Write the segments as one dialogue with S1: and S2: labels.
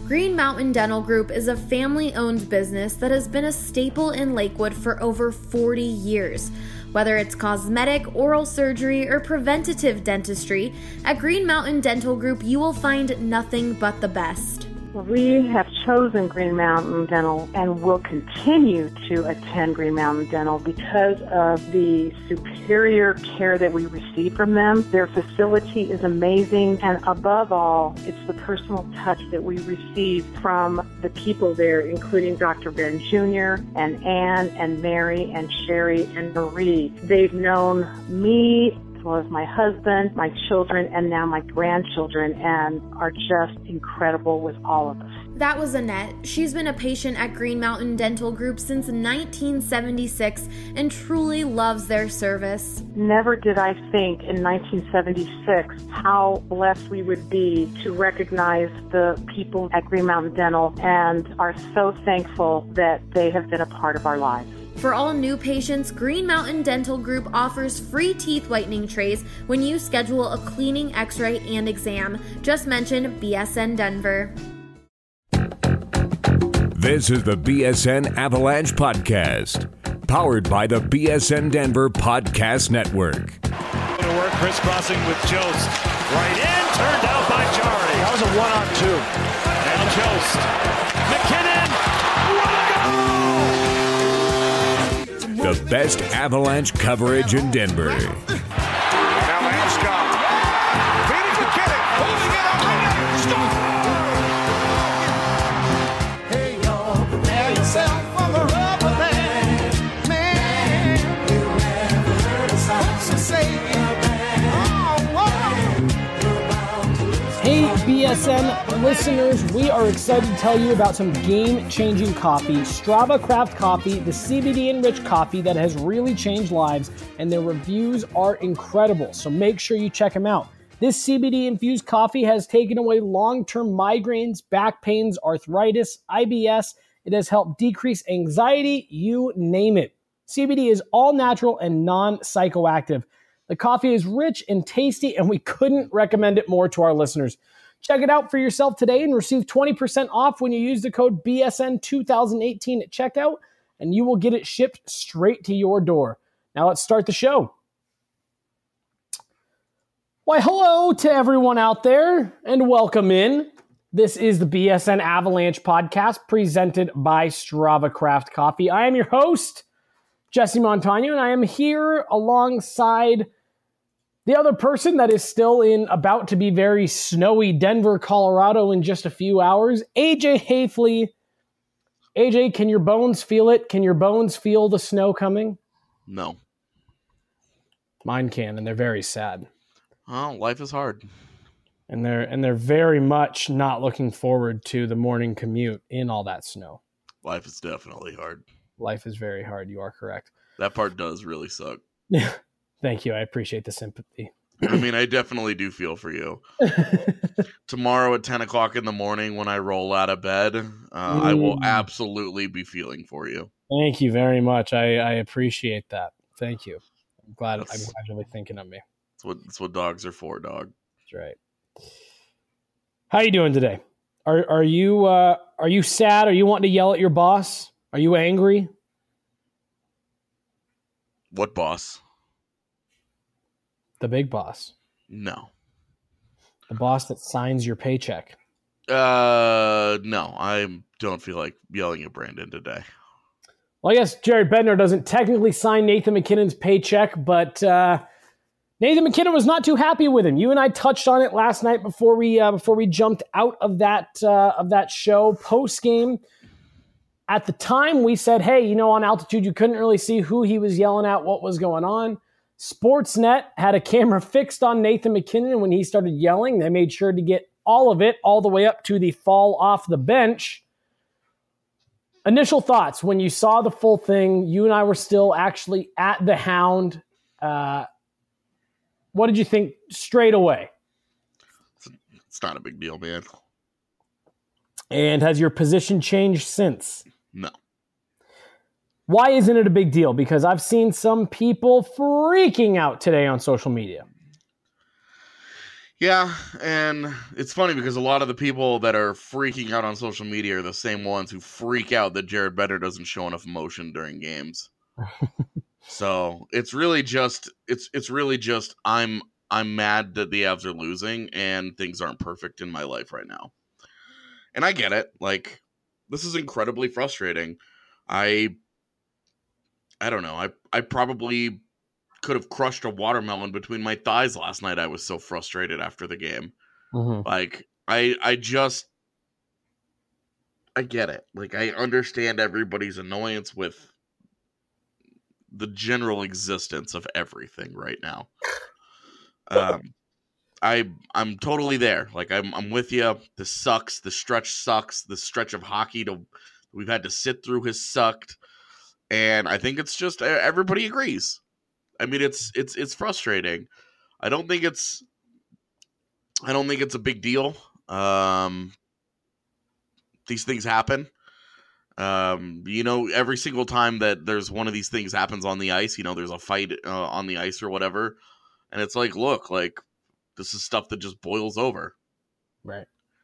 S1: Green Mountain Dental Group is a family-owned business that has been a staple in Lakewood for over 40 years. Whether it's cosmetic, oral surgery, or preventative dentistry, at Green Mountain Dental Group you will find nothing but the best.
S2: We have chosen Green Mountain Dental and will continue to attend Green Mountain Dental because of the superior care that we receive from them. Their facility is amazing, and above all, it's the personal touch that we receive from the people there, including Dr. Ben Jr. and Ann and Mary and Sherry and Marie. They've known me as well as my husband, my children, and now my grandchildren, and are just incredible with all of us.
S1: That was Annette. She's been a patient at Green Mountain Dental Group since 1976 and truly loves their service.
S2: Never did I think in 1976 how blessed we would be to recognize the people at Green Mountain Dental, and are so thankful that they have been a part of our lives.
S1: For all new patients, Green Mountain Dental Group offers free teeth whitening trays when you schedule a cleaning, x-ray, and exam. Just mention BSN Denver.
S3: This is the BSN Avalanche Podcast, powered by the BSN Denver Podcast Network.
S4: To work, crisscrossing with Jost. Right in, turned out by Jari.
S5: That was a 1-on-2.
S4: And Jost. McKinnon! What a goal!
S3: The best Avalanche coverage in Denver.
S5: Now Landeskog. Feeding McKinnon. Holding it up. Hey, y'all, prepare yourself for the rubber band. Man, you never heard a song to say it.
S6: Hey, BSN listeners, we are excited to tell you about some game-changing coffee, Strava Craft Coffee, the CBD-enriched coffee that has really changed lives, and their reviews are incredible, so make sure you check them out. This CBD-infused coffee has taken away long-term migraines, back pains, arthritis, IBS. It has helped decrease anxiety, you name it. CBD is all natural and non-psychoactive. The coffee is rich and tasty, and we couldn't recommend it more to our listeners. Check it out for yourself today and receive 20% off when you use the code BSN2018 at checkout, and you will get it shipped straight to your door. Now let's start the show. Why, hello to everyone out there, and welcome in. This is the BSN Avalanche Podcast presented by Strava Craft Coffee. I am your host, Jesse Montano, and I am here alongside the other person that is still in about to be very snowy Denver, Colorado in just a few hours, AJ Hafley. AJ, can your bones feel it? Can your bones feel the snow coming?
S7: No.
S6: Mine can, and they're very sad.
S7: Oh, life is hard.
S6: And they're very much not looking forward to the morning commute in all that snow.
S7: Life is definitely hard.
S6: Life is very hard. You are correct.
S7: That part does really suck.
S6: Thank you. I appreciate the sympathy.
S7: I mean, I definitely do feel for you. Tomorrow at 10 o'clock in the morning when I roll out of bed, I will absolutely be feeling for you.
S6: Thank you very much. I appreciate that. Thank you. I'm glad you're really thinking of me.
S7: That's what dogs are for, dog.
S6: That's right. How you doing today? Are you sad? Are you wanting to yell at your boss? Are you angry?
S7: What boss?
S6: The big boss.
S7: No.
S6: The boss that signs your paycheck.
S7: No. I don't feel like yelling at Brandon today.
S6: Well, I guess Jared Bednar doesn't technically sign Nathan McKinnon's paycheck, but Nathan McKinnon was not too happy with him. You and I touched on it last night before we jumped out of that show post game. At the time, we said, hey, on altitude, you couldn't really see who he was yelling at, what was going on. Sportsnet had a camera fixed on Nathan McKinnon, and when he started yelling, they made sure to get all of it, all the way up to the fall off the bench. Initial thoughts when you saw the full thing. You and I were still actually at the Hound. What did you think straight away?
S7: It's not a big deal, man.
S6: And has your position changed since?
S7: No.
S6: Why isn't it a big deal? Because I've seen some people freaking out today on social media.
S7: Yeah, and it's funny because a lot of the people that are freaking out on social media are the same ones who freak out that Jared Bender doesn't show enough emotion during games. So it's really just I'm mad that the Avs are losing and things aren't perfect in my life right now. And I get it. Like, this is incredibly frustrating. I don't know. I probably could have crushed a watermelon between my thighs last night. I was so frustrated after the game.
S6: Mm-hmm.
S7: Like, I get it. Like, I understand everybody's annoyance with the general existence of everything right now. I'm totally there. Like, I'm with you. This sucks. The stretch sucks. The stretch of hockey we've had to sit through has sucked. And I think it's just everybody agrees. I mean, it's frustrating. I don't think it's a big deal. These things happen. Every single time that there's one of these things happens on the ice, there's a fight on the ice or whatever, and it's like, look, like, this is stuff that just boils over.
S6: Right.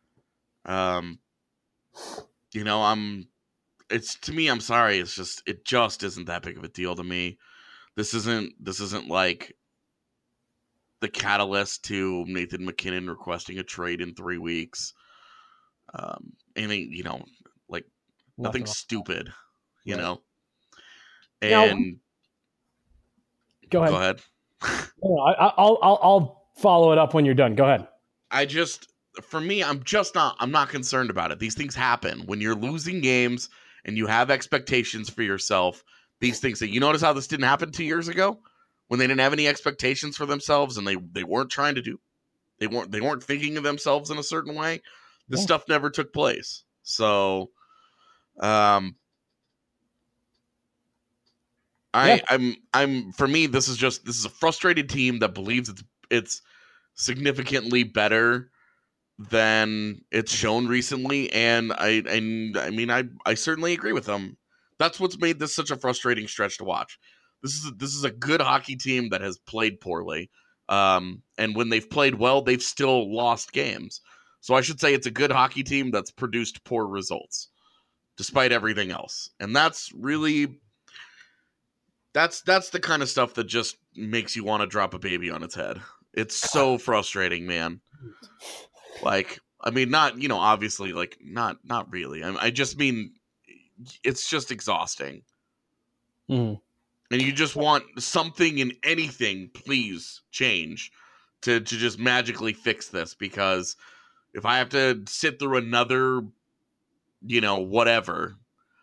S7: To me, I'm sorry. It just isn't that big of a deal to me. This isn't like the catalyst to Nathan MacKinnon requesting a trade in 3 weeks. Like, nothing stupid, you know? And
S6: go ahead. I'll follow it up when you're done. Go ahead.
S7: I'm not concerned about it. These things happen when you're losing games and you have expectations for yourself. These things that, you notice how this didn't happen 2 years ago when they didn't have any expectations for themselves and they weren't trying to do, they weren't thinking of themselves in a certain way. This stuff never took place. So, for me, this is a frustrated team that believes it's significantly better than it's shown recently, and I certainly agree with them. That's what's made this such a frustrating stretch to watch. This is a good hockey team that has played poorly, and when they've played well, they've still lost games. So I should say it's a good hockey team that's produced poor results, despite everything else. And that's really that's the kind of stuff that just makes you want to drop a baby on its head. It's so frustrating, man. Like, I mean, not, obviously, like, not really. I just mean, it's just exhausting.
S6: Mm.
S7: And you just want something in anything, please change to just magically fix this, because if I have to sit through another, whatever,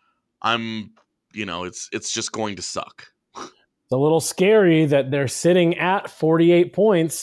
S7: it's just going to suck.
S6: It's a little scary that they're sitting at 48 points.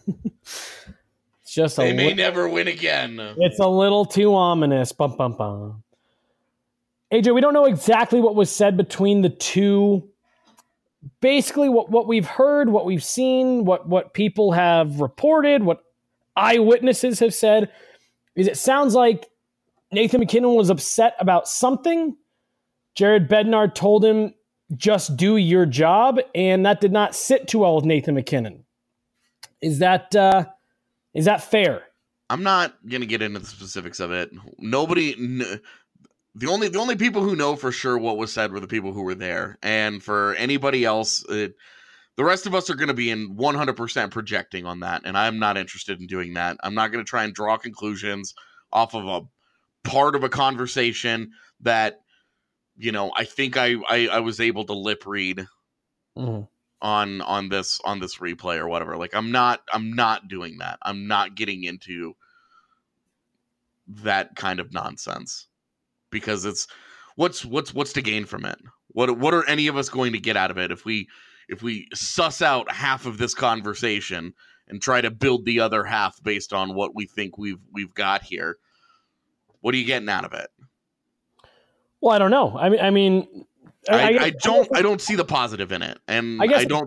S7: They may never win again.
S6: It's a little too ominous. Bum, bum, bum. AJ, we don't know exactly what was said between the two. Basically, what we've heard, what we've seen, what people have reported, what eyewitnesses have said, is it sounds like Nathan MacKinnon was upset about something. Jared Bednar told him, just do your job, and that did not sit too well with Nathan MacKinnon. Is that fair?
S7: I'm not going to get into the specifics of it. The only people who know for sure what was said were the people who were there. And for anybody else, the rest of us are going to be in 100% projecting on that. And I'm not interested in doing that. I'm not going to try and draw conclusions off of a part of a conversation that, I think I was able to lip read on this replay or whatever. Like, I'm not doing that. I'm not getting into that kind of nonsense, because it's what's to gain from it? What are any of us going to get out of it if we suss out half of this conversation and try to build the other half based on what we think we've got here? What are you getting out of it?
S6: Well, I don't know. I
S7: don't see the positive in it, and
S6: I guess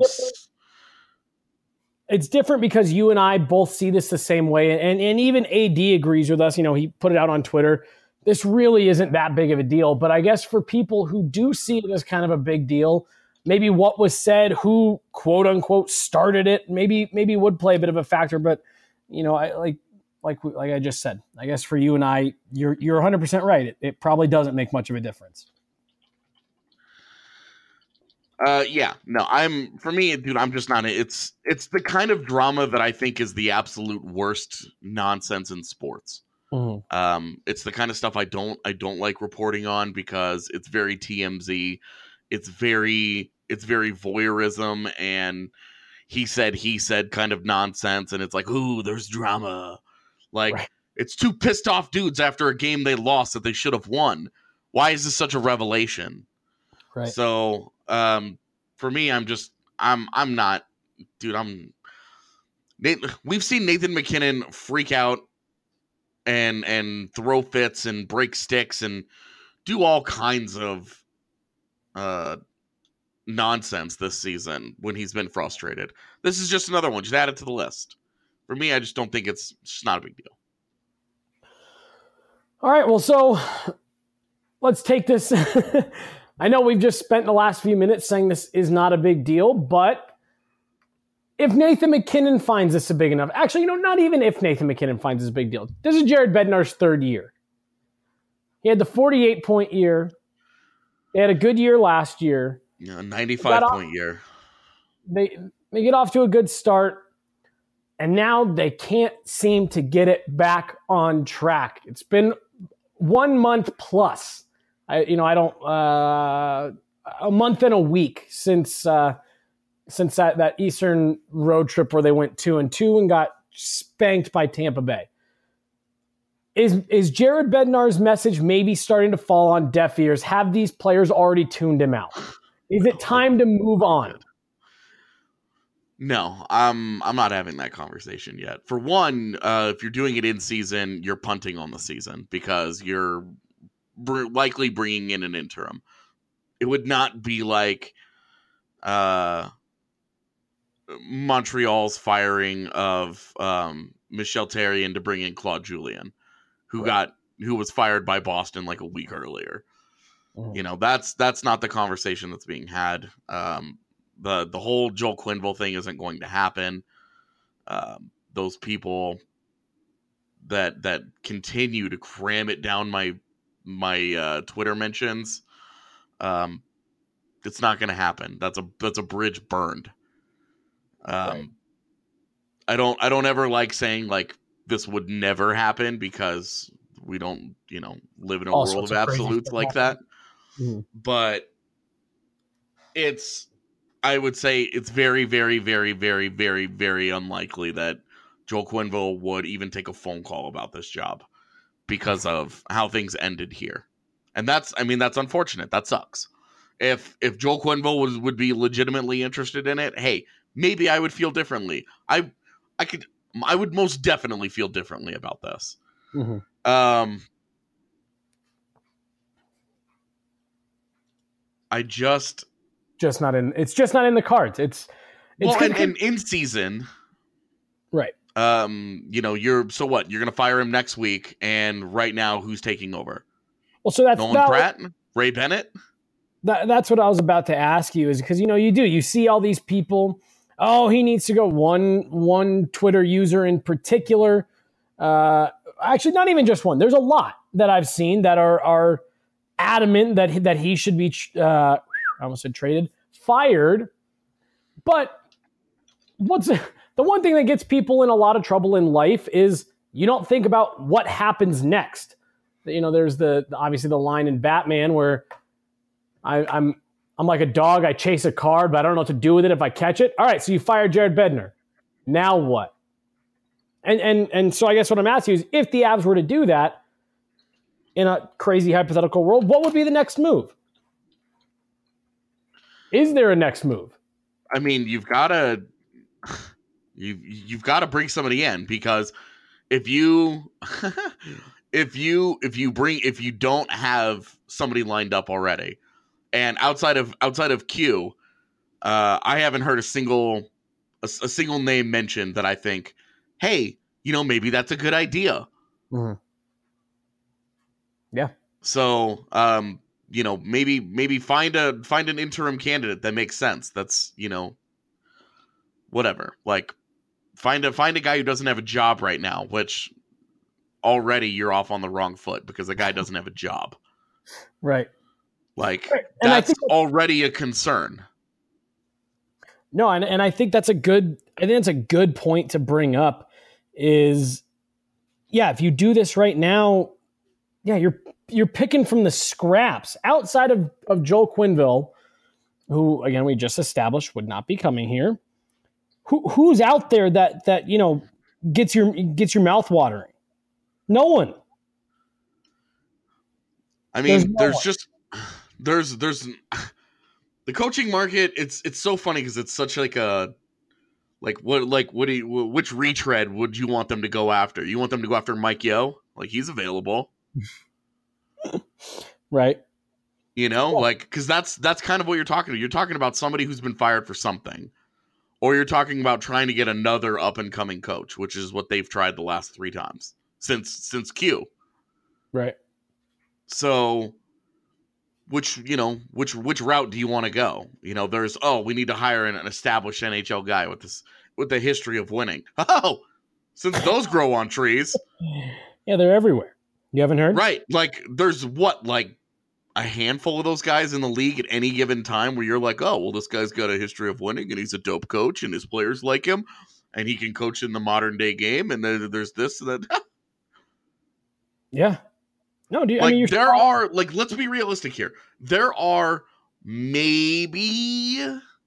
S6: it's different because you and I both see this the same way, and even AD agrees with us. He put it out on Twitter. This really isn't that big of a deal, but I guess for people who do see it as kind of a big deal, maybe what was said, who quote unquote started it, maybe would play a bit of a factor. But like I just said, I guess for you and I, you're 100% right. It probably doesn't make much of a difference.
S7: Yeah, no, for me, dude, I'm just not, it's the kind of drama that I think is the absolute worst nonsense in sports.
S6: Mm-hmm.
S7: It's the kind of stuff I don't like reporting on because it's very TMZ. It's very voyeurism and he said kind of nonsense. And it's like, ooh, there's drama. Like, right. It's two pissed off dudes after a game they lost that they should have won. Why is this such a revelation?
S6: Right.
S7: So, for me, I'm not, dude, we've seen Nathan McKinnon freak out and throw fits and break sticks and do all kinds of nonsense this season when he's been frustrated. This is just another one. Just add it to the list. For me, I just don't think it's just not a big deal.
S6: All right, well, so let's take this. I know we've just spent the last few minutes saying this is not a big deal, but if Nathan McKinnon finds this a big enough, actually, not even if Nathan McKinnon finds this a big deal. This is Jared Bednar's third year. He had the 48-point year. They had a good year last year.
S7: Yeah, 95-point year.
S6: They get off to a good start, and now they can't seem to get it back on track. It's been 1 month plus. A month and a week since that Eastern road trip where they went 2-2 and got spanked by Tampa Bay. Is Jared Bednar's message maybe starting to fall on deaf ears? Have these players already tuned him out? Is it time to move on?
S7: No, I'm not having that conversation yet. For one, if you're doing it in season, you're punting on the season because you're likely bringing in an interim. It would not be like Montreal's firing of Michel Therrien to bring in Claude Julien, who was fired by Boston like a week earlier. Mm. That's not the conversation that's being had. The whole Joel Quenneville thing isn't going to happen. Those people that continue to cram it down my Twitter mentions, it's not going to happen. That's a bridge burned. Right. I don't ever like saying like this would never happen because we don't, live in a world of absolutes like that. Mm-hmm. But I would say it's very, very, very, very, very, very unlikely that Joel Quenneville would even take a phone call about this job because of how things ended here. And that's unfortunate. That sucks. If Joel Quenneville would be legitimately interested in it, hey, maybe I would feel differently. I would most definitely feel differently about this. Mm-hmm. It's just not in the cards. It's and in season.
S6: Right.
S7: You're going to fire him next week, and right now who's taking over?
S6: Well, so that's
S7: Nolan Pratt, Ray Bennett.
S6: That's what I was about to ask you, is because you see all these people. Oh, he needs to go. One Twitter user in particular, actually not even just one. There's a lot that I've seen that are adamant that he should be I almost said traded, fired. But the one thing that gets people in a lot of trouble in life is you don't think about what happens next. There's obviously the line in Batman where I'm like a dog. I chase a card, but I don't know what to do with it if I catch it. All right, so you fire Jared Bednar. Now what? And so I guess what I'm asking you is, if the Avs were to do that in a crazy hypothetical world, what would be the next move? Is there a next move?
S7: I mean, you've got to bring somebody in, because if you don't have somebody lined up already, and outside of Q, I haven't heard a single name mentioned that I think, hey, maybe that's a good idea.
S6: Mm-hmm. Yeah.
S7: So, maybe find an interim candidate that makes sense. That's, whatever. Like, find a guy who doesn't have a job right now, which already you're off on the wrong foot because the guy doesn't have a job.
S6: Right.
S7: Like,
S6: And
S7: that's already a concern.
S6: No, and I think that's a good point to bring up is, yeah, if you do this right now, yeah, you're picking from the scraps outside of Joel Quenneville, who, again, we just established would not be coming here. Who's out there that gets your mouth watering? No one.
S7: I mean, there's the coaching market. It's so funny because it's such which retread would you want them to go after? You want them to go after Mike Yeo? Like, he's available,
S6: right?
S7: Because that's kind of what you're talking about. You're talking about somebody who's been fired for something, or you're talking about trying to get another up and coming coach, which is what they've tried the last 3 times since Q.
S6: Right.
S7: So, which route do you want to go? There's, we need to hire an established NHL guy with a history of winning. Oh, since those grow on trees.
S6: Yeah, they're everywhere. You haven't heard?
S7: Right. Like, there's a handful of those guys in the league at any given time where you're like, oh, well, this guy's got a history of winning and he's a dope coach and his players like him and he can coach in the modern day game. And there's this and that.
S6: Yeah. No,
S7: let's be realistic here. There are maybe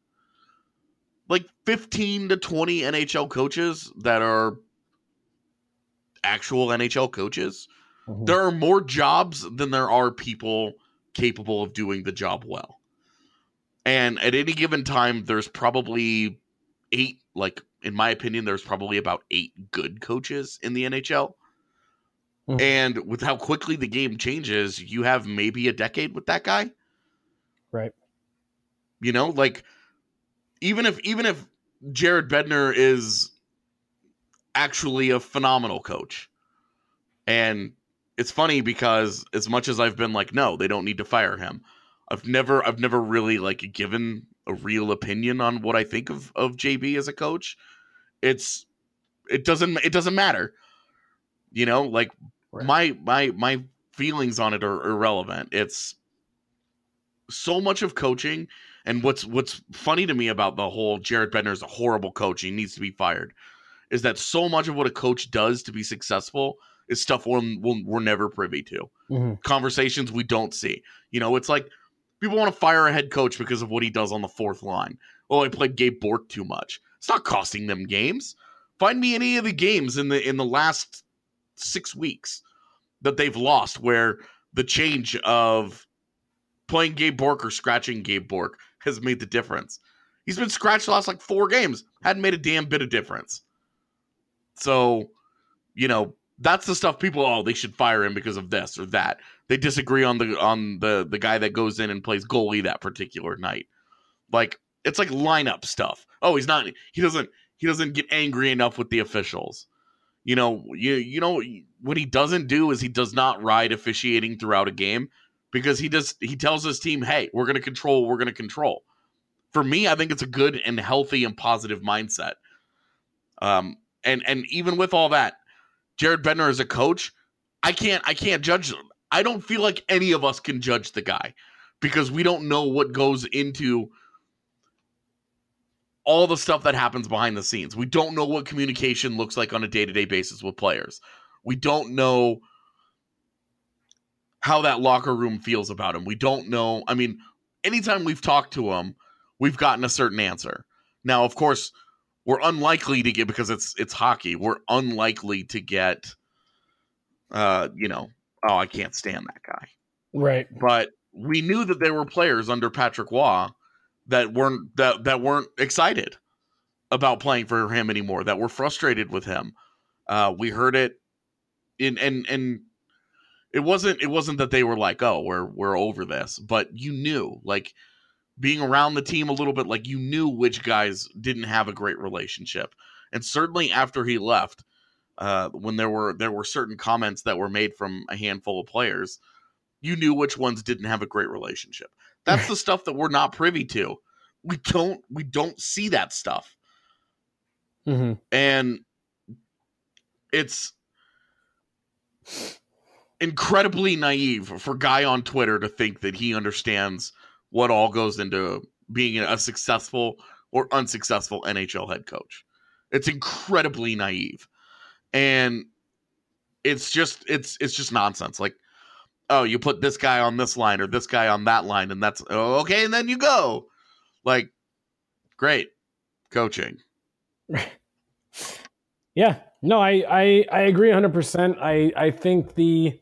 S7: 15 to 20 NHL coaches that are actual NHL coaches. Mm-hmm. There are more jobs than there are people capable of doing the job well. And at any given time, there's probably 8, in my opinion, there's probably about 8 good coaches in the NHL. Mm-hmm. And with how quickly the game changes, you have maybe a decade with that guy.
S6: Right.
S7: Even if Jared Bednar is actually a phenomenal coach. And it's funny because as much as I've been like, no, they don't need to fire him, I've never really given a real opinion on what I think of JB as a coach. It doesn't matter. Right. My feelings on it are irrelevant. It's so much of coaching, and what's funny to me about the whole Jared Bednar is a horrible coach, he needs to be fired, is that so much of what a coach does to be successful is stuff we're never privy to. Mm-hmm. Conversations we don't see. It's like people want to fire a head coach because of what he does on the 4th line. Oh, I played Gabe Bourque too much. It's not costing them games. Find me any of the games in the last 6 weeks that they've lost where the change of playing Gabe Bourque or scratching Gabe Bourque has made the difference. He's been scratched the last 4 games. Hadn't made a damn bit of difference. So, that's the stuff people, they should fire him because of this or that. They disagree on the guy that goes in and plays goalie that particular night. It's like lineup stuff. Oh, he doesn't get angry enough with the officials. What he doesn't do is he does not ride officiating throughout a game because he tells his team, hey, we're going to control what we're going to control. For me, I think it's a good and healthy and positive mindset. And even with all that, Jared Bednar as a coach, I can't judge. I don't feel like any of us can judge the guy because we don't know what goes into all the stuff that happens behind the scenes. We don't know what communication looks like on a day-to-day basis with players. We don't know how that locker room feels about him. We don't know. I mean, anytime we've talked to him, we've gotten a certain answer. Now, of course, we're unlikely to get, because it's hockey, we're unlikely to get, I can't stand that guy.
S6: Right.
S7: But we knew that there were players under Patrick Waugh that weren't excited about playing for him anymore, that were frustrated with him. We heard it and it wasn't that they were like, oh, we're over this, but you knew, being around the team a little bit, you knew which guys didn't have a great relationship. And certainly after he left, when there were certain comments that were made from a handful of players, you knew which ones didn't have a great relationship. That's the stuff that we're not privy to. We don't see that stuff.
S6: Mm-hmm.
S7: And it's incredibly naive for a guy on Twitter to think that he understands what all goes into being a successful or unsuccessful NHL head coach. It's incredibly naive. And it's just nonsense. Like, oh, you put this guy on this line or this guy on that line, and that's okay, and then you go. Like, great coaching.
S6: Yeah, no, I agree 100%. I think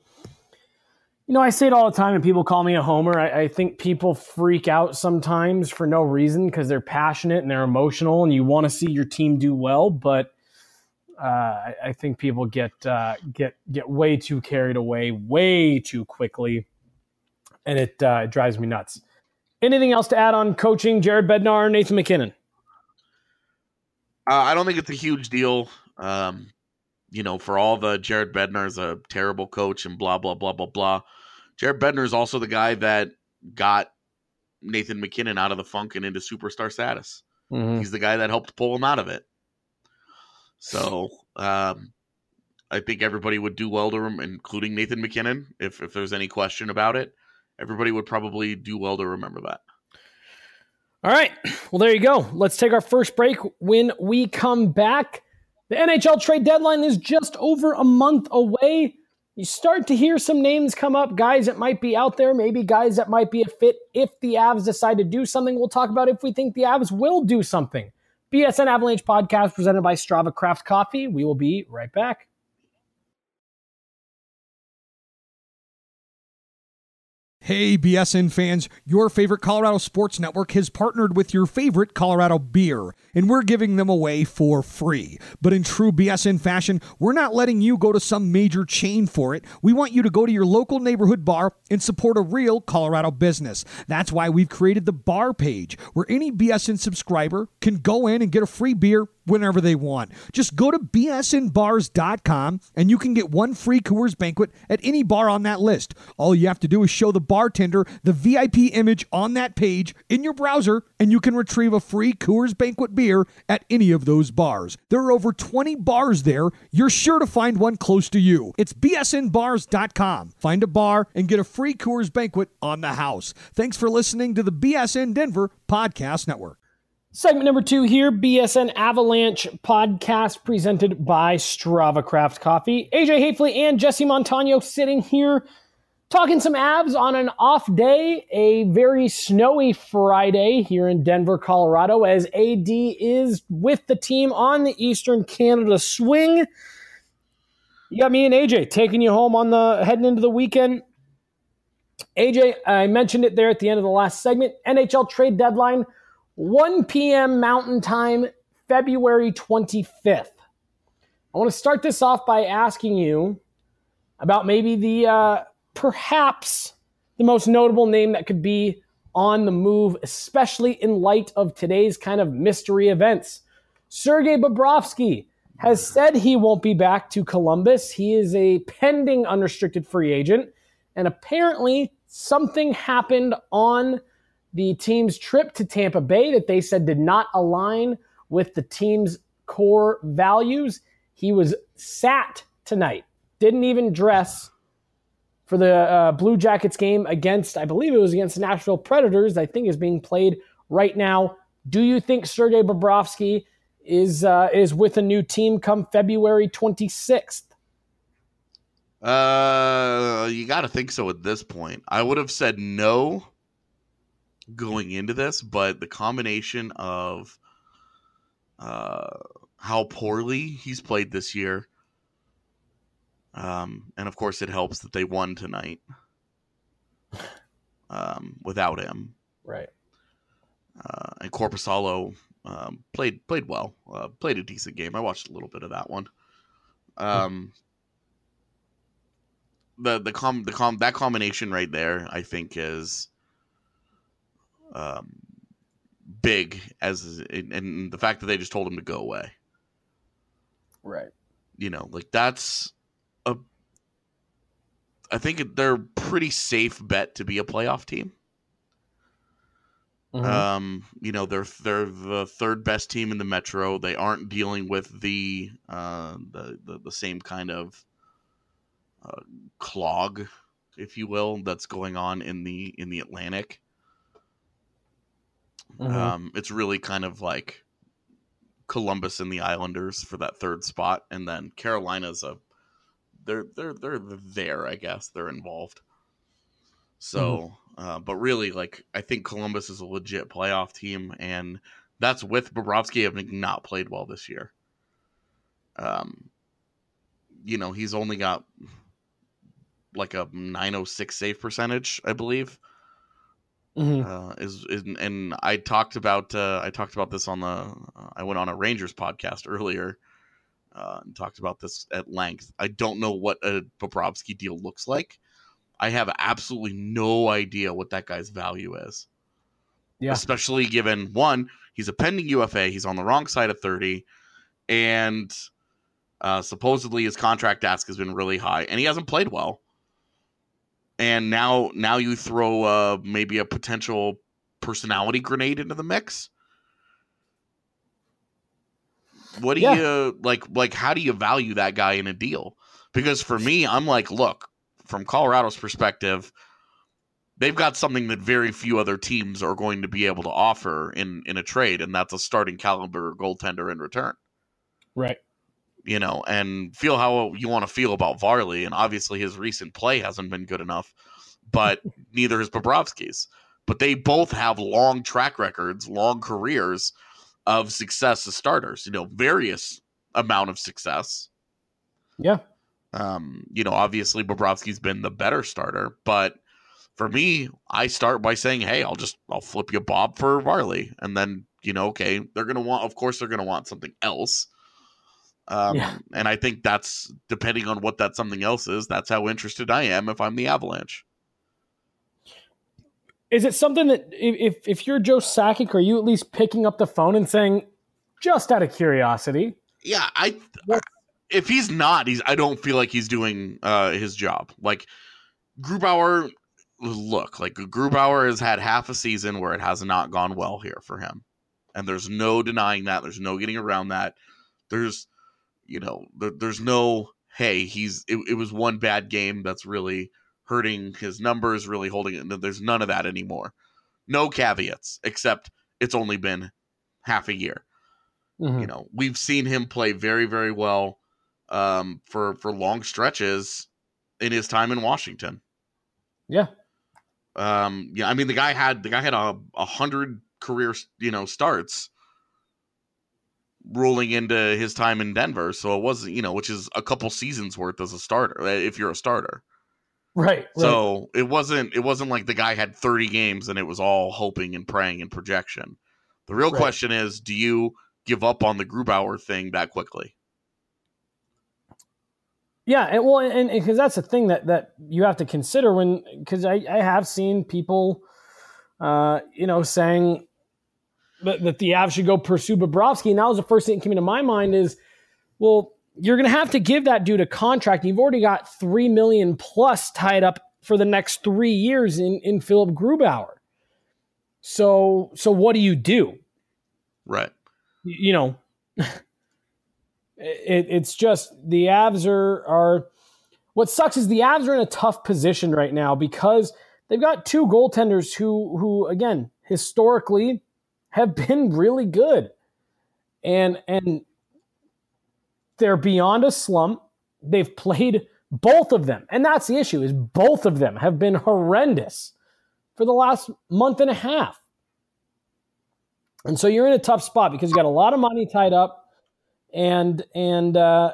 S6: I say it all the time and people call me a homer. I think people freak out sometimes for no reason because they're passionate and they're emotional and you want to see your team do well. But I think people get way too carried away way too quickly. And it drives me nuts. Anything else to add on coaching Jared Bednar, Nathan MacKinnon?
S7: I don't think it's a huge deal. For all the Jared Bednar's a terrible coach and blah, blah, blah, blah, blah. Jared Bednar is also the guy that got Nathan MacKinnon out of the funk and into superstar status. Mm-hmm. He's the guy that helped pull him out of it. So I think everybody would do well to him, including Nathan MacKinnon. If there's any question about it, everybody would probably do well to remember that.
S6: All right. Well, there you go. Let's take our first break. When we come back, the NHL trade deadline is just over a month away. You start to hear some names come up, guys that might be out there, maybe guys that might be a fit if the Avs decide to do something. We'll talk about if we think the Avs will do something. BSN Avalanche podcast presented by Strava Craft Coffee. We will be right back.
S8: Hey, BSN fans, your favorite Colorado Sports Network has partnered with your favorite Colorado beer, and we're giving them away for free. But in true BSN fashion, we're not letting you go to some major chain for it. We want you to go to your local neighborhood bar and support a real Colorado business. That's why we've created the bar page, where any BSN subscriber can go in and get a free beer whenever they want. Just go to bsnbars.com and you can get one free Coors Banquet at any bar on that list. All you have to do is show the bartender the VIP image on that page in your browser and you can retrieve a free Coors Banquet beer at any of those bars. There are over 20 bars there. You're sure to find one close to you. It's bsnbars.com. Find a bar and get a free Coors Banquet on the house. Thanks for listening to the BSN Denver Podcast Network.
S6: Segment number 2 here, BSN Avalanche podcast presented by Strava Craft Coffee. AJ Hafley and Jesse Montano sitting here talking some Avs on an off day, a very snowy Friday here in Denver, Colorado, as AD is with the team on the Eastern Canada swing. You got me and AJ taking you home on heading into the weekend. AJ, I mentioned it there at the end of the last segment, NHL trade deadline, 1 p.m. Mountain Time, February 25th. I want to start this off by asking you about maybe the perhaps the most notable name that could be on the move, especially in light of today's kind of mystery events. Sergei Bobrovsky has said he won't be back to Columbus. He is a pending unrestricted free agent, and apparently something happened on the team's trip to Tampa Bay that they said did not align with the team's core values. He was sat tonight, didn't even dress for the Blue Jackets game against, I believe it was against the Nashville Predators, I think is being played right now. Do you think Sergei Bobrovsky is with a new team come February 26th?
S7: You got to think so at this point. I would have said no going into this, but the combination of how poorly he's played this year, and of course it helps that they won tonight without him.
S6: Right.
S7: And Korpisalo played well, played a decent game. I watched a little bit of that one. That combination right there, I think, is big, and the fact that they just told him to go away.
S6: Right.
S7: That's I think they're a pretty safe bet to be a playoff team. You know, they're the third best team in the Metro. They aren't dealing with the same kind of clog, if you will, that's going on in the Atlantic. It's really kind of like Columbus and the Islanders for that third spot, and then Carolina's they're there, I guess. They're involved. So, but really, like, I think Columbus is a legit playoff team, and that's with Bobrovsky having not played well this year. You know, he's only got like a .906 save percentage, I believe. And I talked about this on I went on a Rangers podcast earlier and talked about this at length. I don't know what a Bobrovsky deal looks like. I have absolutely no idea what that guy's value is. Yeah. Especially given, one, he's a pending UFA. He's on the wrong side of 30. And supposedly his contract ask has been really high. And he hasn't played well. And now you throw maybe a potential personality grenade into the mix. What do you, like, how do you value that guy in a deal? Because for me, I'm like, look, from Colorado's perspective, they've got something that very few other teams are going to be able to offer in a trade, and that's a starting caliber goaltender in return.
S6: Right.
S7: You know, and feel how you want to feel about Varley, and obviously his recent play hasn't been good enough, but neither is Bobrovsky's. But they both have long track records, long careers of success as starters, you know, various amount of success.
S6: Yeah.
S7: You know, obviously Bobrovsky's been the better starter, but for me, I start by saying, hey, I'll flip you Bob for Varley. And then, you know, okay, they're going to want something else. And I think that's, depending on what that something else is, that's how interested I am if I'm the Avalanche.
S6: Is it something that if you're Joe Sakic, are you at least picking up the phone and saying, just out of curiosity?
S7: Yeah, if he's not, I don't feel like he's doing his job. Like Grubauer has had half a season where it has not gone well here for him. And there's no denying that. There's no getting around that. There's, you know, there's no, hey, it was one bad game that's really hurting his numbers, really holding it. There's none of that anymore. No caveats, except it's only been half a year. You know, we've seen him play very, very well for long stretches in his time in Washington.
S6: Yeah.
S7: I mean, the guy had 100 career, you know, starts rolling into his time in Denver. So it wasn't, you know, which is a couple seasons worth as a starter, if you're a starter.
S6: Right.
S7: So it wasn't like the guy had 30 games and it was all hoping and praying and projection. The real question is, do you give up on the Grubauer thing that quickly?
S6: Yeah, and because that's the thing that you have to consider because I have seen people, you know, saying that the Avs should go pursue Bobrovsky, and that was the first thing that came into my mind is, well, you're going to have to give that dude a contract. You've already got $3 million plus tied up for the next 3 years in Philip Grubauer. So what do you do?
S7: Right.
S6: You know. It's just the Avs are what sucks is the Avs are in a tough position right now because they've got two goaltenders who again historically have been really good and they're beyond a slump. They've played both of them, and that's the issue is both of them have been horrendous for the last month and a half. And so you're in a tough spot because you got a lot of money tied up. And there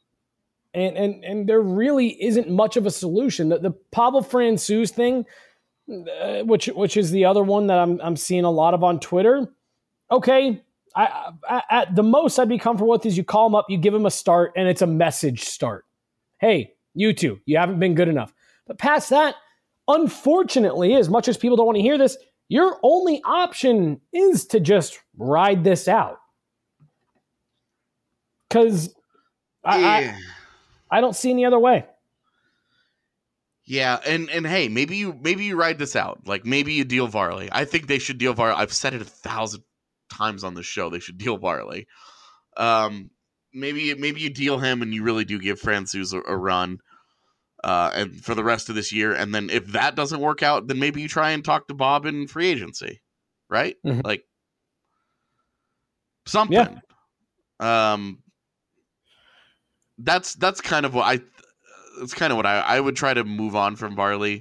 S6: really isn't much of a solution. The Pavel Francouz thing, which is the other one that I'm seeing a lot of on Twitter. Okay, I at the most I'd be comfortable with is you call him up, you give him a start, and it's a message start. Hey, you two, you haven't been good enough. But past that, unfortunately, as much as people don't want to hear this, your only option is to just ride this out. Because I don't see any other way.
S7: Yeah, and hey, maybe you ride this out. Like maybe you deal Varley. I think they should deal Varley. I've said it 1,000 times on this show. They should deal Varley. Maybe you deal him and you really do give Francouz a run, and for the rest of this year. And then if that doesn't work out, then maybe you try and talk to Bob in free agency, right?
S6: Mm-hmm.
S7: Like something. Yeah. That's kind of what I would try to move on from Varley.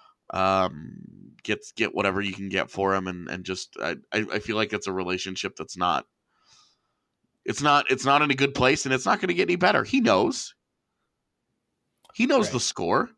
S7: Get whatever you can get for him, and just I feel like it's a relationship that's not. It's not in a good place, and it's not going to get any better. He knows right. The score,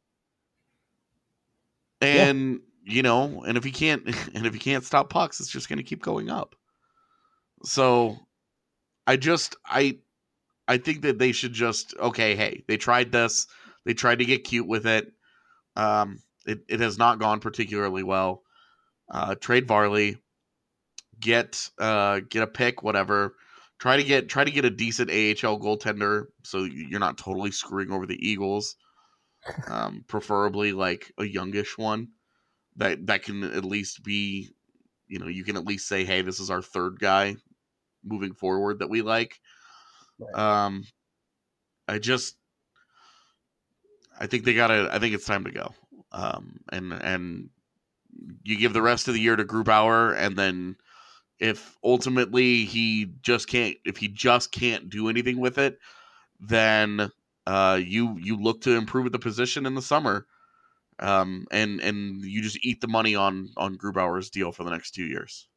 S7: and and if he can't stop pucks, it's just going to keep going up. So, I think that they should just hey, they tried this, they tried to get cute with it. It has not gone particularly well. Trade Varley, get a pick, whatever. Try to get a decent AHL goaltender so you're not totally screwing over the Eagles. Preferably like a youngish one that can at least be, you can at least say, hey, this is our third guy moving forward that we like. Right. I think it's time to go. And you give the rest of the year to Grubauer, and then if ultimately he just can't do anything with it, then you look to improve at the position in the summer, and you just eat the money on Grubauer's deal for the next 2 years.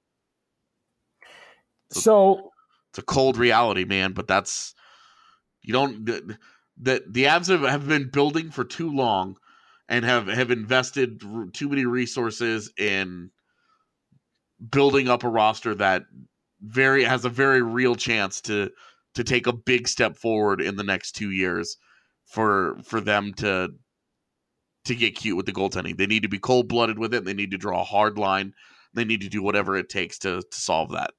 S6: So
S7: it's a cold reality, man. But that's the Avs have been building for too long, and have invested too many resources in building up a roster that has a very real chance to take a big step forward in the next 2 years for them to get cute with the goaltending. They need to be cold-blooded with it. They need to draw a hard line. They need to do whatever it takes to solve that.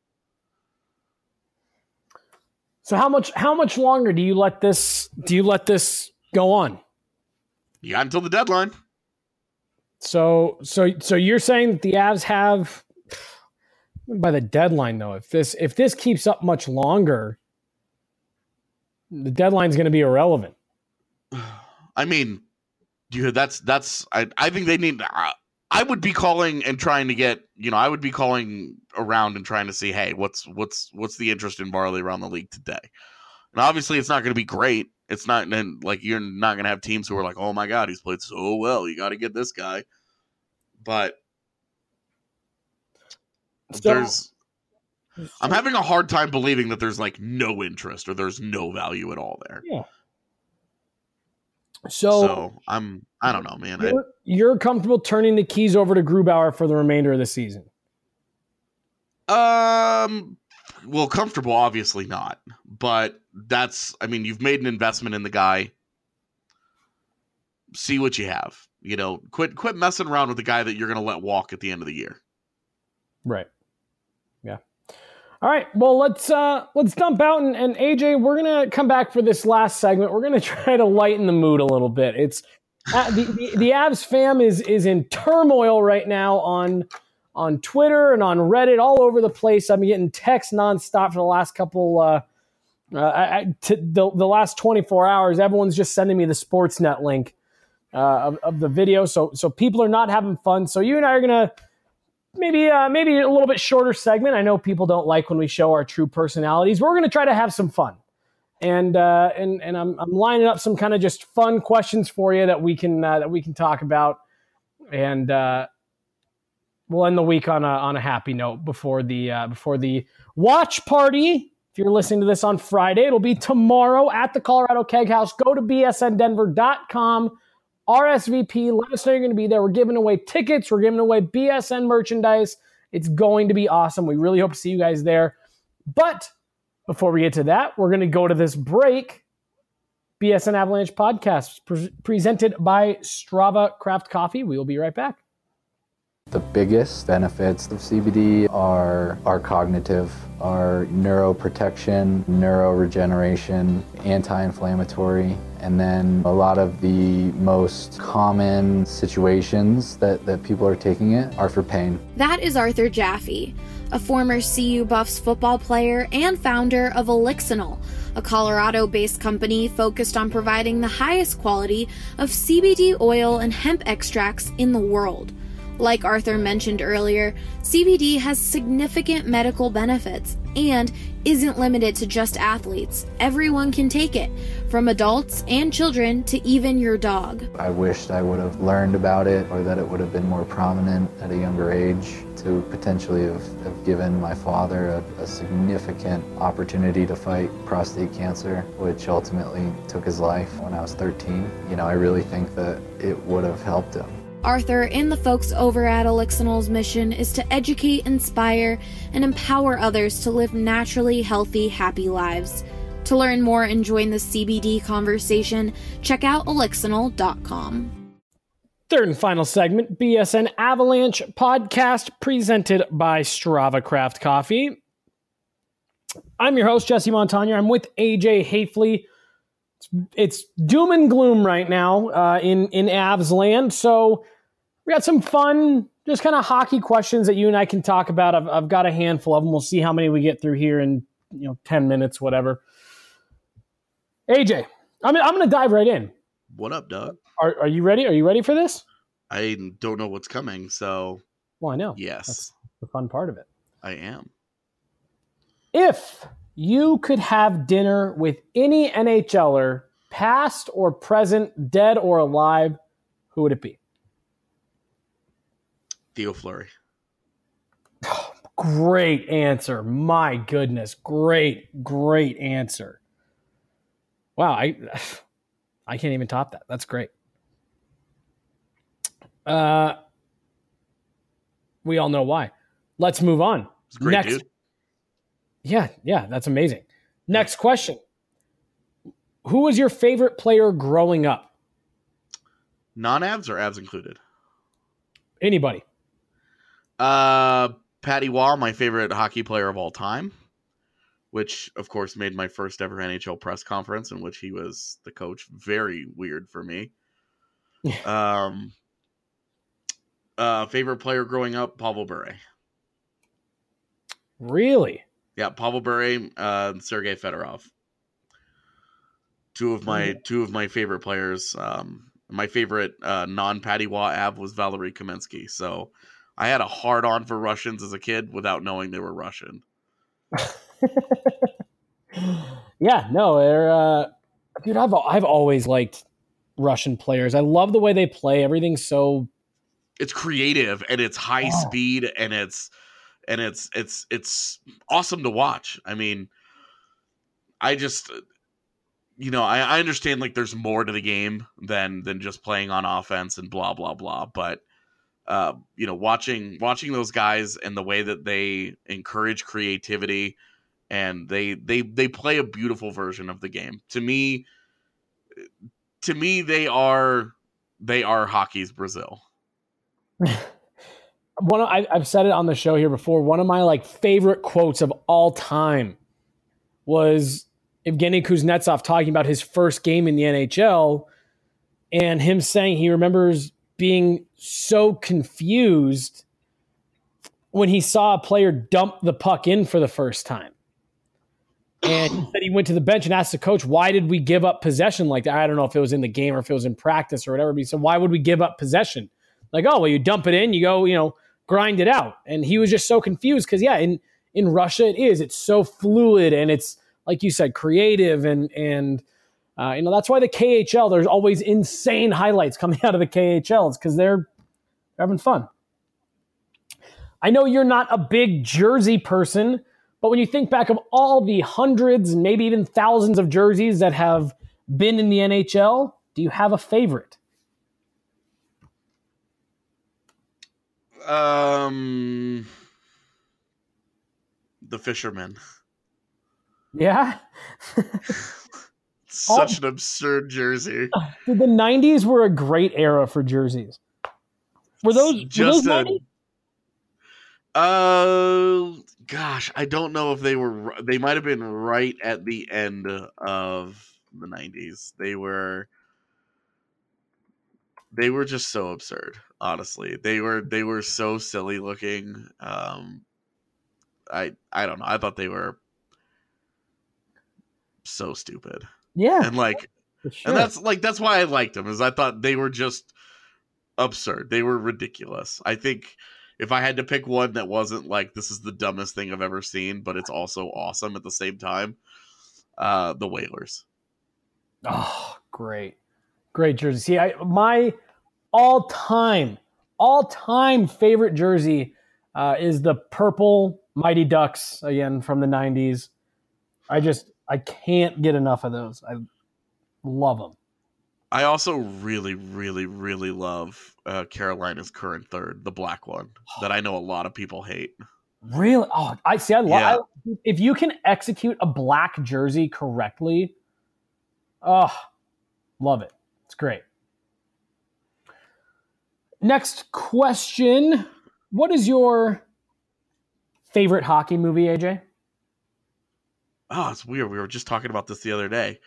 S6: So how much longer do you let this go on?
S7: You got until the deadline.
S6: So you're saying that the Avs have, by the deadline though, if this keeps up much longer, the deadline's going to be irrelevant.
S7: I mean, I think they need. I would be calling and trying to get. I would be calling around and trying to see, hey, what's the interest in Varley around the league today? And obviously, it's not going to be great. It's not like you're not going to have teams who are like, oh my God, he's played so well. You got to get this guy. But I'm having a hard time believing that there's like no interest or there's no value at all there.
S6: Yeah.
S7: So I don't know, man.
S6: You're comfortable turning the keys over to Grubauer for the remainder of the season?
S7: Well, comfortable, obviously not. But you've made an investment in the guy. See what you have. Quit messing around with the guy that you're going to let walk at the end of the year.
S6: Right. Yeah. All right. Well, let's dump out and AJ, we're going to come back for this last segment. We're going to try to lighten the mood a little bit. It's the Avs fam is in turmoil right now on Twitter and on Reddit, all over the place. I'm getting texts nonstop for the last couple the last 24 hours. Everyone's just sending me the Sportsnet link of the video. So people are not having fun. So you and I are gonna maybe a little bit shorter segment. I know people don't like when we show our true personalities. We're gonna try to have some fun, and I'm lining up some kind of just fun questions for you that we can talk about, and we'll end the week on a happy note before the watch party. If you're listening to this on Friday, it'll be tomorrow at the Colorado Keg House. Go to bsndenver.com. RSVP. Let us know you're going to be there. We're giving away tickets. We're giving away BSN merchandise. It's going to be awesome. We really hope to see you guys there. But before we get to that, we're going to go to this break. BSN Avalanche podcast presented by Strava Craft Coffee. We will be right back.
S9: The biggest benefits of CBD are cognitive, are neuroprotection, neuroregeneration, anti-inflammatory, and then a lot of the most common situations that people are taking it are for pain.
S1: That is Arthur Jaffe, a former CU Buffs football player and founder of Elixinol, a Colorado-based company focused on providing the highest quality of CBD oil and hemp extracts in the world. Like Arthur mentioned earlier, CBD has significant medical benefits and isn't limited to just athletes. Everyone can take it, from adults and children to even your dog.
S9: I wished I would have learned about it, or that it would have been more prominent at a younger age, to potentially have given my father a significant opportunity to fight prostate cancer, which ultimately took his life when I was 13. I really think that it would have helped him.
S1: Arthur and the folks over at Elixinol's mission is to educate, inspire, and empower others to live naturally healthy, happy lives. To learn more and join the CBD conversation, check out elixinol.com.
S6: Third and final segment, BSN Avalanche podcast presented by Strava Craft Coffee. I'm your host, Jesse Montagnier. I'm with AJ Hafley. It's doom and gloom right now in Avs land, so we got some fun, just kind of hockey questions that you and I can talk about. I've got a handful of them. We'll see how many we get through here in 10 minutes, whatever. AJ, I'm going to dive right in.
S7: What up, Doug?
S6: Are you ready? Are you ready for this?
S7: I don't know what's coming, so...
S6: Well, I know.
S7: Yes.
S6: That's the fun part of it.
S7: I am.
S6: If you could have dinner with any NHLer, past or present, dead or alive, who would it be?
S7: Theo Fleury.
S6: Great answer. My goodness. Great answer. Wow, I can't even top that. That's great. We all know why. Let's move on.
S7: It's great,
S6: Next.
S7: dude.
S6: Yeah, that's amazing. Next question. Who was your favorite player growing up?
S7: Non-Avs or Avs included?
S6: Anybody.
S7: Patty Waugh, my favorite hockey player of all time, which, of course, made my first ever NHL press conference in which he was the coach. Very weird for me. Favorite player growing up, Pavel Bure.
S6: Really?
S7: Yeah, Pavel Bure, and Sergei Fedorov. Two of my favorite players. My favorite non-Patty Waugh Av was Valery Kamensky. So I had a hard-on for Russians as a kid without knowing they were Russian.
S6: Yeah, no, they're dude. I've always liked Russian players. I love the way they play. Everything's so.
S7: It's creative and it's high speed and it's awesome to watch. I mean, I just, I understand like there's more to the game than just playing on offense and blah blah blah. But watching those guys and the way that they encourage creativity and they play a beautiful version of the game. To me, they are hockey's Brazil.
S6: I've said it on the show here before. One of my favorite quotes of all time was Evgeny Kuznetsov talking about his first game in the NHL and him saying he remembers being so confused when he saw a player dump the puck in for the first time. And he said he went to the bench and asked the coach, why did we give up possession like that? I don't know if it was in the game or if it was in practice or whatever, but he said, why would we give up possession? You dump it in, you go, grind it out. And he was just so confused because, in Russia it's so fluid and it's, like you said, creative. And that's why the KHL, there's always insane highlights coming out of the KHL. It's because they're having fun. I know you're not a big jersey person, but when you think back of all the hundreds and maybe even thousands of jerseys that have been in the NHL, do you have a favorite?
S7: The Fisherman.
S6: Yeah?
S7: Such an absurd jersey.
S6: The 90s were a great era for jerseys. Were those 90s?
S7: Gosh, I don't know if they might have been right at the end of the 90s. They were just so absurd, honestly. They were so silly looking. I don't know. I thought they were so stupid.
S6: Yeah.
S7: And like
S6: sure.
S7: and that's why I liked them, is I thought they were just absurd. They were ridiculous. I think if I had to pick one that wasn't like, this is the dumbest thing I've ever seen, but it's also awesome at the same time, the Whalers.
S6: Oh, great jersey. See, my all-time favorite jersey is the purple Mighty Ducks, again from the 90s. I can't get enough of those. I love them.
S7: I also really, really, really love Carolina's current third, the black one, that I know a lot of people hate.
S6: Really? Oh, I see. I love. Yeah. If you can execute a black jersey correctly, oh, love it. It's great. Next question: what is your favorite hockey movie, AJ?
S7: Oh, it's weird. We were just talking about this the other day.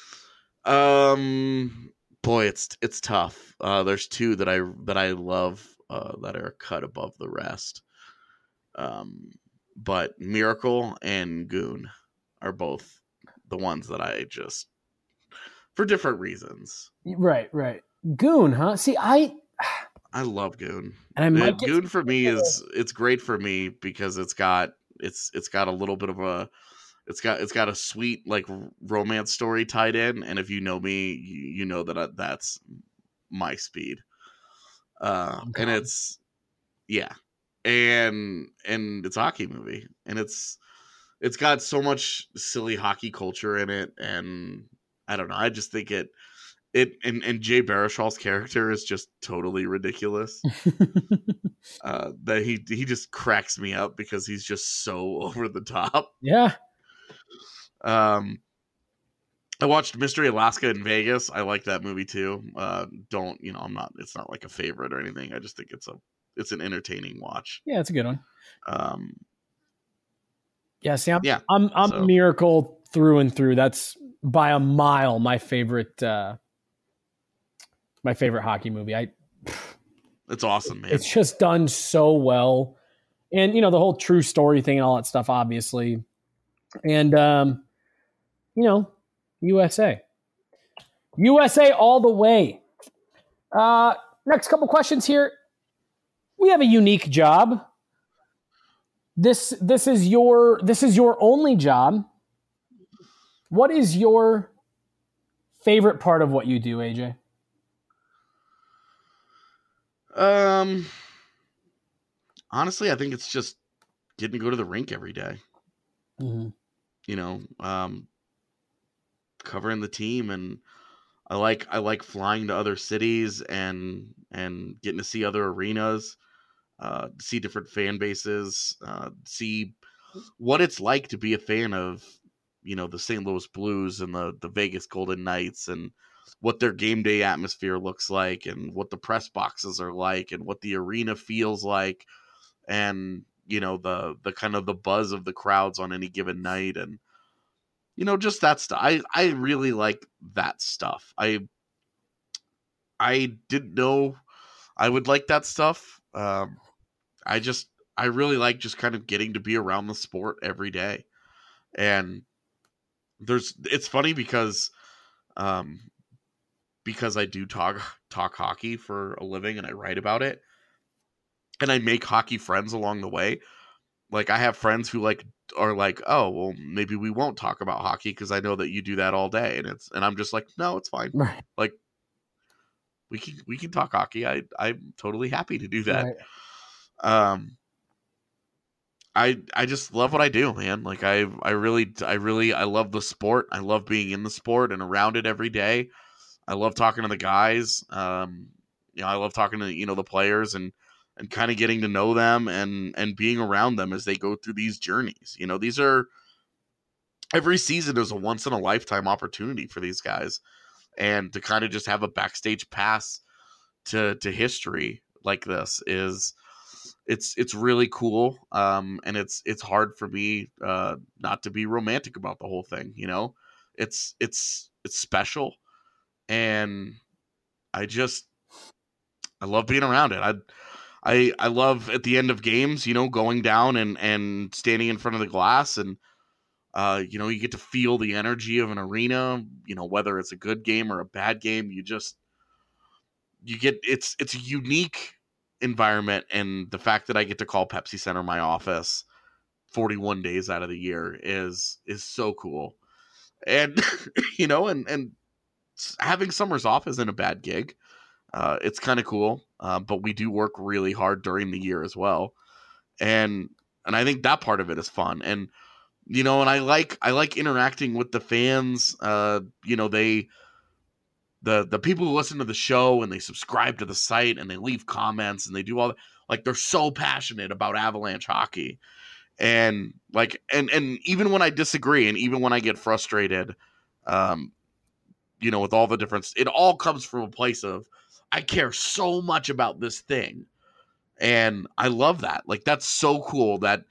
S7: Boy, it's tough. There's two that I love that are cut above the rest. But Miracle and Goon are both the ones that I just, for different reasons.
S6: Right. Goon, huh? See, I
S7: love Goon.
S6: And
S7: Goon for me it's great for me because it's got a little bit of a it's got a sweet like romance story tied in, and if you know me, you know that that's my speed. And it's and it's a hockey movie, and it's got so much silly hockey culture in it, and I don't know, I just think and Jay Baruchel's character is just totally ridiculous. That he just cracks me up because he's just so over the top.
S6: Yeah.
S7: I watched Mystery Alaska in Vegas. I like that movie too. It's not like a favorite or anything. I just think it's an entertaining watch.
S6: Yeah, it's a good one. See, I'm
S7: so.
S6: Miracle through and through. That's by a mile my favorite hockey movie.
S7: It's awesome, man.
S6: It's just done so well. And the whole true story thing and all that stuff, obviously. And USA all the way. Next couple questions here. We have a unique job. This is your only job. What is your favorite part of what you do, AJ?
S7: Honestly, I think it's just getting to go to the rink every day.
S6: Mm-hmm.
S7: Covering the team, and I like flying to other cities and getting to see other arenas, see different fan bases, see what it's like to be a fan of, the St. Louis Blues and the Vegas Golden Knights, and what their game day atmosphere looks like, and what the press boxes are like, and what the arena feels like, and the kind of the buzz of the crowds on any given night, and just that stuff. I really like that stuff. I didn't know I would like that stuff. I really like just kind of getting to be around the sport every day. And it's funny because I do talk hockey for a living, and I write about it, and I make hockey friends along the way. Like, I have friends who are like, oh, well, maybe we won't talk about hockey because I know that you do that all day, and I'm just like, no, it's fine.
S6: Right.
S7: Like, we can talk hockey. I'm totally happy to do that. Right. I just love what I do, man. Like, I love the sport. I love being in the sport and around it every day. I love talking to the guys. I love talking to the players and kind of getting to know them and being around them as they go through these journeys. Every season is a once in a lifetime opportunity for these guys, and to kind of just have a backstage pass to history like this is it's really cool. And it's hard for me not to be romantic about the whole thing. It's special, and I love being around it. I love at the end of games, going down and standing in front of the glass, and you get to feel the energy of an arena, whether it's a good game or a bad game. It's a unique environment, and the fact that I get to call Pepsi Center my office 41 days out of the year is so cool. And and having summers off isn't a bad gig. It's kind of cool, but we do work really hard during the year as well, and I think that part of it is fun. And and I like interacting with the fans. The people who listen to the show and they subscribe to the site and they leave comments and they do all that. Like, they're so passionate about Avalanche hockey, and and even when I disagree and even when I get frustrated, with all the difference, it all comes from a place of, I care so much about this thing. And I love that. Like, that's so cool that,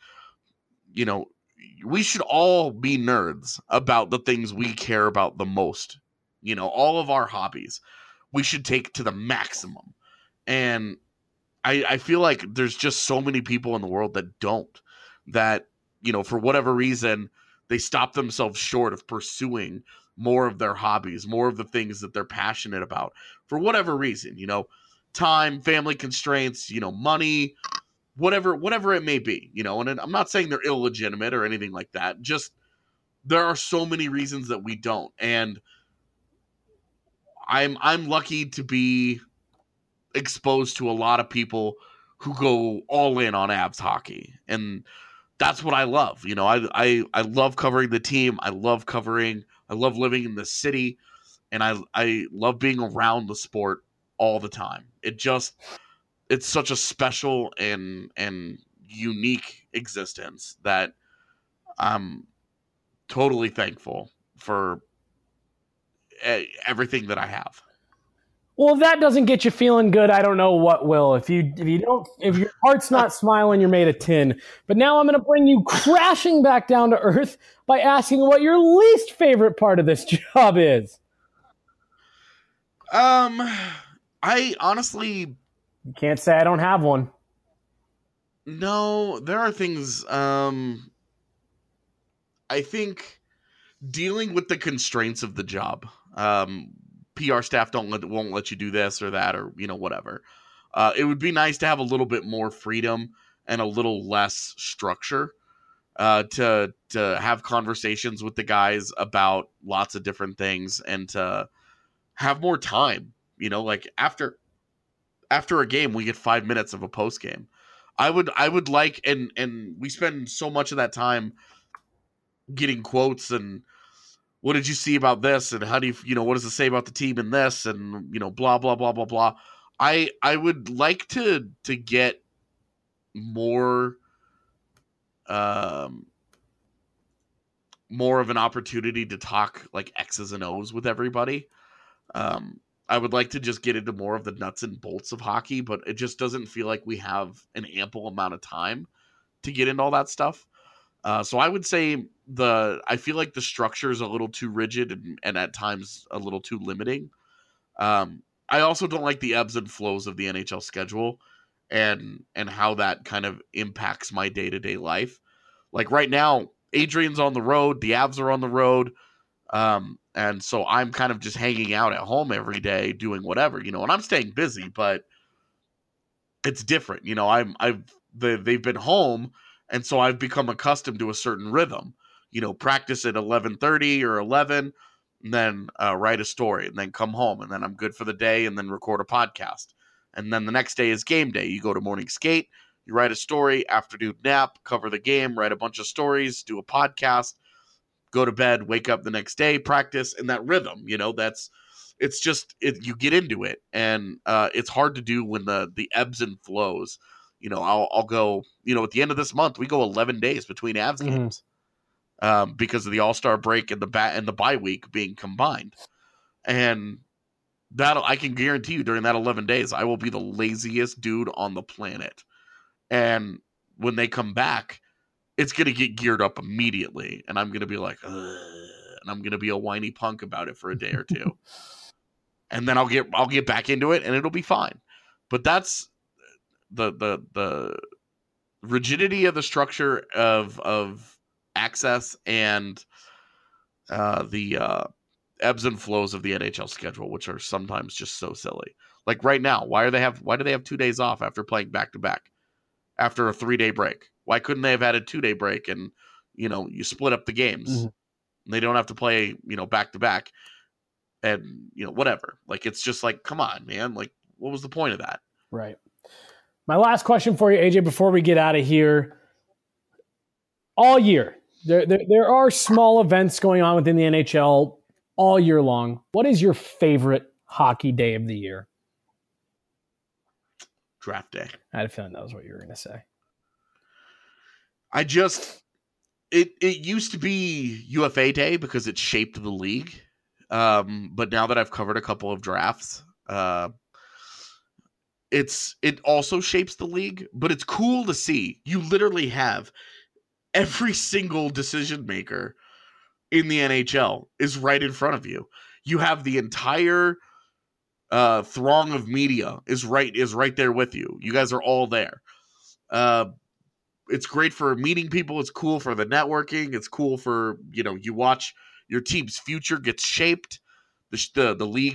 S7: we should all be nerds about the things we care about the most. All of our hobbies, we should take to the maximum. And I feel like there's just so many people in the world that don't, that, for whatever reason, they stop themselves short of pursuing more of their hobbies, more of the things that they're passionate about, for whatever reason, time, family constraints, money, whatever it may be, and I'm not saying they're illegitimate or anything like that. Just, there are so many reasons that we don't. And I'm lucky to be exposed to a lot of people who go all in on Avs hockey, and that's what I love. I love covering the team. I love living in the city, and I love being around the sport all the time. It's such a special and unique existence that I'm totally thankful for everything that I have.
S6: Well, if that doesn't get you feeling good, I don't know what will. If your heart's not smiling, you're made of tin. But now I'm going to bring you crashing back down to earth by asking what your least favorite part of this job is.
S7: I honestly,
S6: you can't say I don't have one.
S7: No, there are things. I think dealing with the constraints of the job. PR staff won't let you do this or that, or whatever. It would be nice to have a little bit more freedom and a little less structure to have conversations with the guys about lots of different things, and to have more time. Like after a game, we get 5 minutes of a post game. I would like, and we spend so much of that time getting quotes and, what did you see about this? And how do you, what does it say about the team in this? And, blah, blah, blah, blah, blah. I would like to get more of an opportunity to talk like X's and O's with everybody. I would like to just get into more of the nuts and bolts of hockey, but it just doesn't feel like we have an ample amount of time to get into all that stuff. So I would say I feel like the structure is a little too rigid and at times a little too limiting. I also don't like the ebbs and flows of the NHL schedule and how that kind of impacts my day-to-day life. Like right now, Adrian's on the road, the Avs are on the road. And so I'm kind of just hanging out at home every day doing whatever, and I'm staying busy, but it's different. They've been home. And so I've become accustomed to a certain rhythm, practice at 11:30 or 11, and then write a story, and then come home, and then I'm good for the day, and then record a podcast. And then the next day is game day. You go to morning skate, you write a story, afternoon nap, cover the game, write a bunch of stories, do a podcast, go to bed, wake up the next day, practice, and that rhythm, you get into it. And it's hard to do when the ebbs and flows. I'll go, at the end of this month, we go 11 days between Avs games because of the All-Star break and the bye week being combined. And I can guarantee you during that 11 days, I will be the laziest dude on the planet. And when they come back, it's going to get geared up immediately. And I'm going to be like, ugh, and I'm going to be a whiny punk about it for a day or two. And then I'll get back into it and it'll be fine. But that's the rigidity of the structure of access and the ebbs and flows of the NHL schedule, which are sometimes just so silly. Like right now, why do they have 2 days off after playing back to back after a 3-day break? Why couldn't they have had a 2-day break and, you split up the games? Mm-hmm. They don't have to play, back to back and, whatever. Like, it's just like, come on, man. Like, what was the point of that?
S6: Right. My last question for you, AJ, before we get out of here. All year, there are small events going on within the NHL all year long. What is your favorite hockey day of the year?
S7: Draft day.
S6: I had a feeling that was what you were going to say.
S7: It used to be UFA day because it shaped the league. But now that I've covered a couple of drafts, it also shapes the league, but it's cool to see. You literally have every single decision maker in the NHL is right in front of you. You have the entire throng of media is right there with you. You guys are all there. It's great for meeting people. It's cool for the networking. It's cool for, you watch your team's future gets shaped. The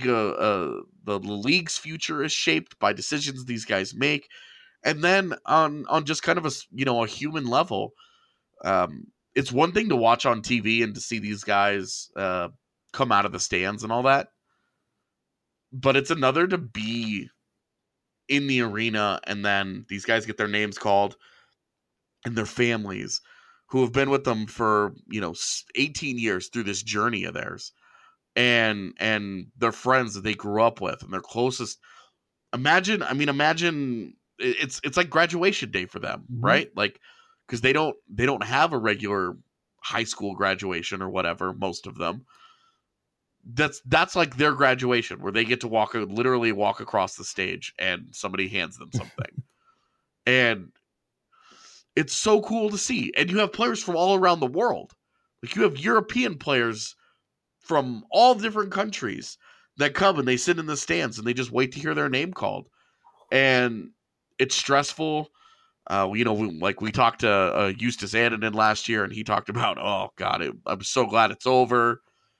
S7: league's future is shaped by decisions these guys make. And then on just kind of a human level, it's one thing to watch on TV and to see these guys come out of the stands and all that. But it's another to be in the arena and then these guys get their names called and their families who have been with them for, 18 years through this journey of theirs and their friends that they grew up with and their closest. Imagine it's like graduation day for them, mm-hmm. right? Like, because they don't have a regular high school graduation or whatever, most of them. That's like their graduation where they get to literally walk across the stage and somebody hands them something. And it's so cool to see. And you have players from all around the world. Like you have European players from all different countries that come and they sit in the stands and they just wait to hear their name called. And it's stressful. We talked to Eustace Annunen last year and he talked about, oh God, I'm so glad it's over.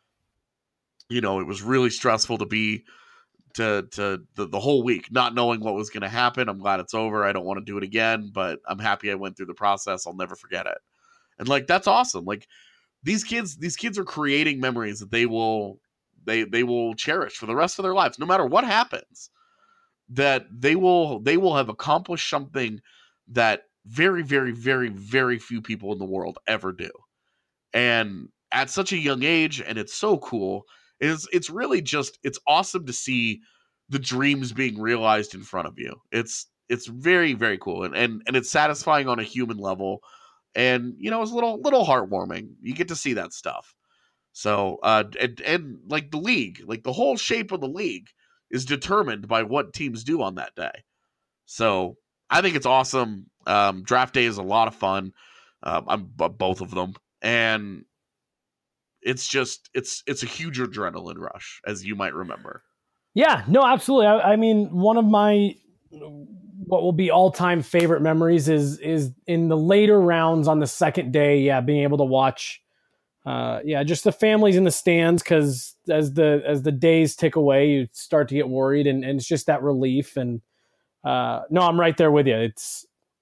S7: It was really stressful to be the whole week, not knowing what was going to happen. I'm glad it's over. I don't want to do it again, but I'm happy I went through the process. I'll never forget it. And like, that's awesome. Like these kids are creating memories that they will cherish for the rest of their lives, no matter what happens, that they will have accomplished something that very, very, very, very few people in the world ever do. And at such a young age, and it's so cool. It's really just, it's awesome to see the dreams being realized in front of you. It's very, very cool. And it's satisfying on a human level. And, it's a little heartwarming. You get to see that stuff. So, and like the league, like the whole shape of the league is determined by what teams do on that day. So I think it's awesome. Draft day is a lot of fun. I'm both of them. And it's just, it's a huge adrenaline rush, as you might remember.
S6: Yeah, no, absolutely. I mean, one of my, what will be all-time favorite memories is in the later rounds on the second day. Yeah. Being able to watch, just the families in the stands. Cause as the days tick away, you start to get worried and it's just that relief. And no, I'm right there with you. It's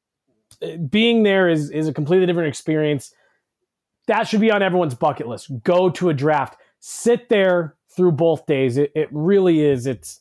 S6: being there is a completely different experience. That should be on everyone's bucket list. Go to a draft. Sit there through both days. It really is. It's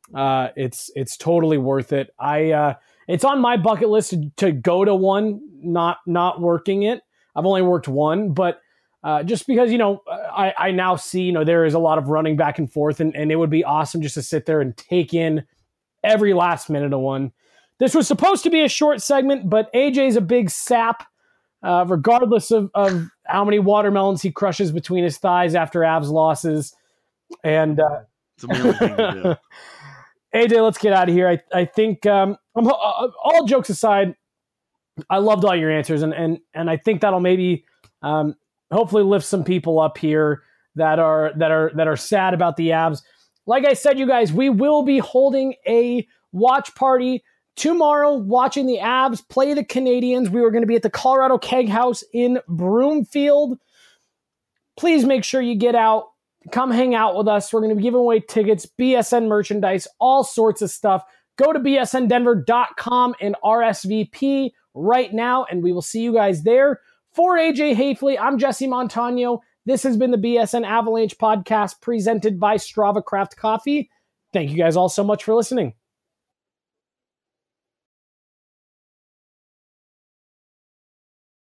S6: totally worth it. It's on my bucket list to go to one, not working it. I've only worked one, but just because, I now see, there is a lot of running back and forth and it would be awesome just to sit there and take in every last minute of one. This was supposed to be a short segment, but AJ's a big sap. Regardless of how many watermelons he crushes between his thighs after Avs losses. And
S7: it's a million thing to do.
S6: AJ, let's get out of here. I think all jokes aside, I loved all your answers, and I think that'll maybe hopefully lift some people up here that are sad about the Avs. Like I said, you guys, we will be holding a watch party tomorrow, watching the Avs play the Canadiens. We were going to be at the Colorado Keg House in Broomfield. Please make sure you get out. Come hang out with us. We're going to be giving away tickets, BSN merchandise, all sorts of stuff. Go to bsndenver.com and RSVP right now, and we will see you guys there. For AJ Hafley, I'm Jesse Montano. This has been the BSN Avalanche podcast presented by Strava Craft Coffee. Thank you guys all so much for listening.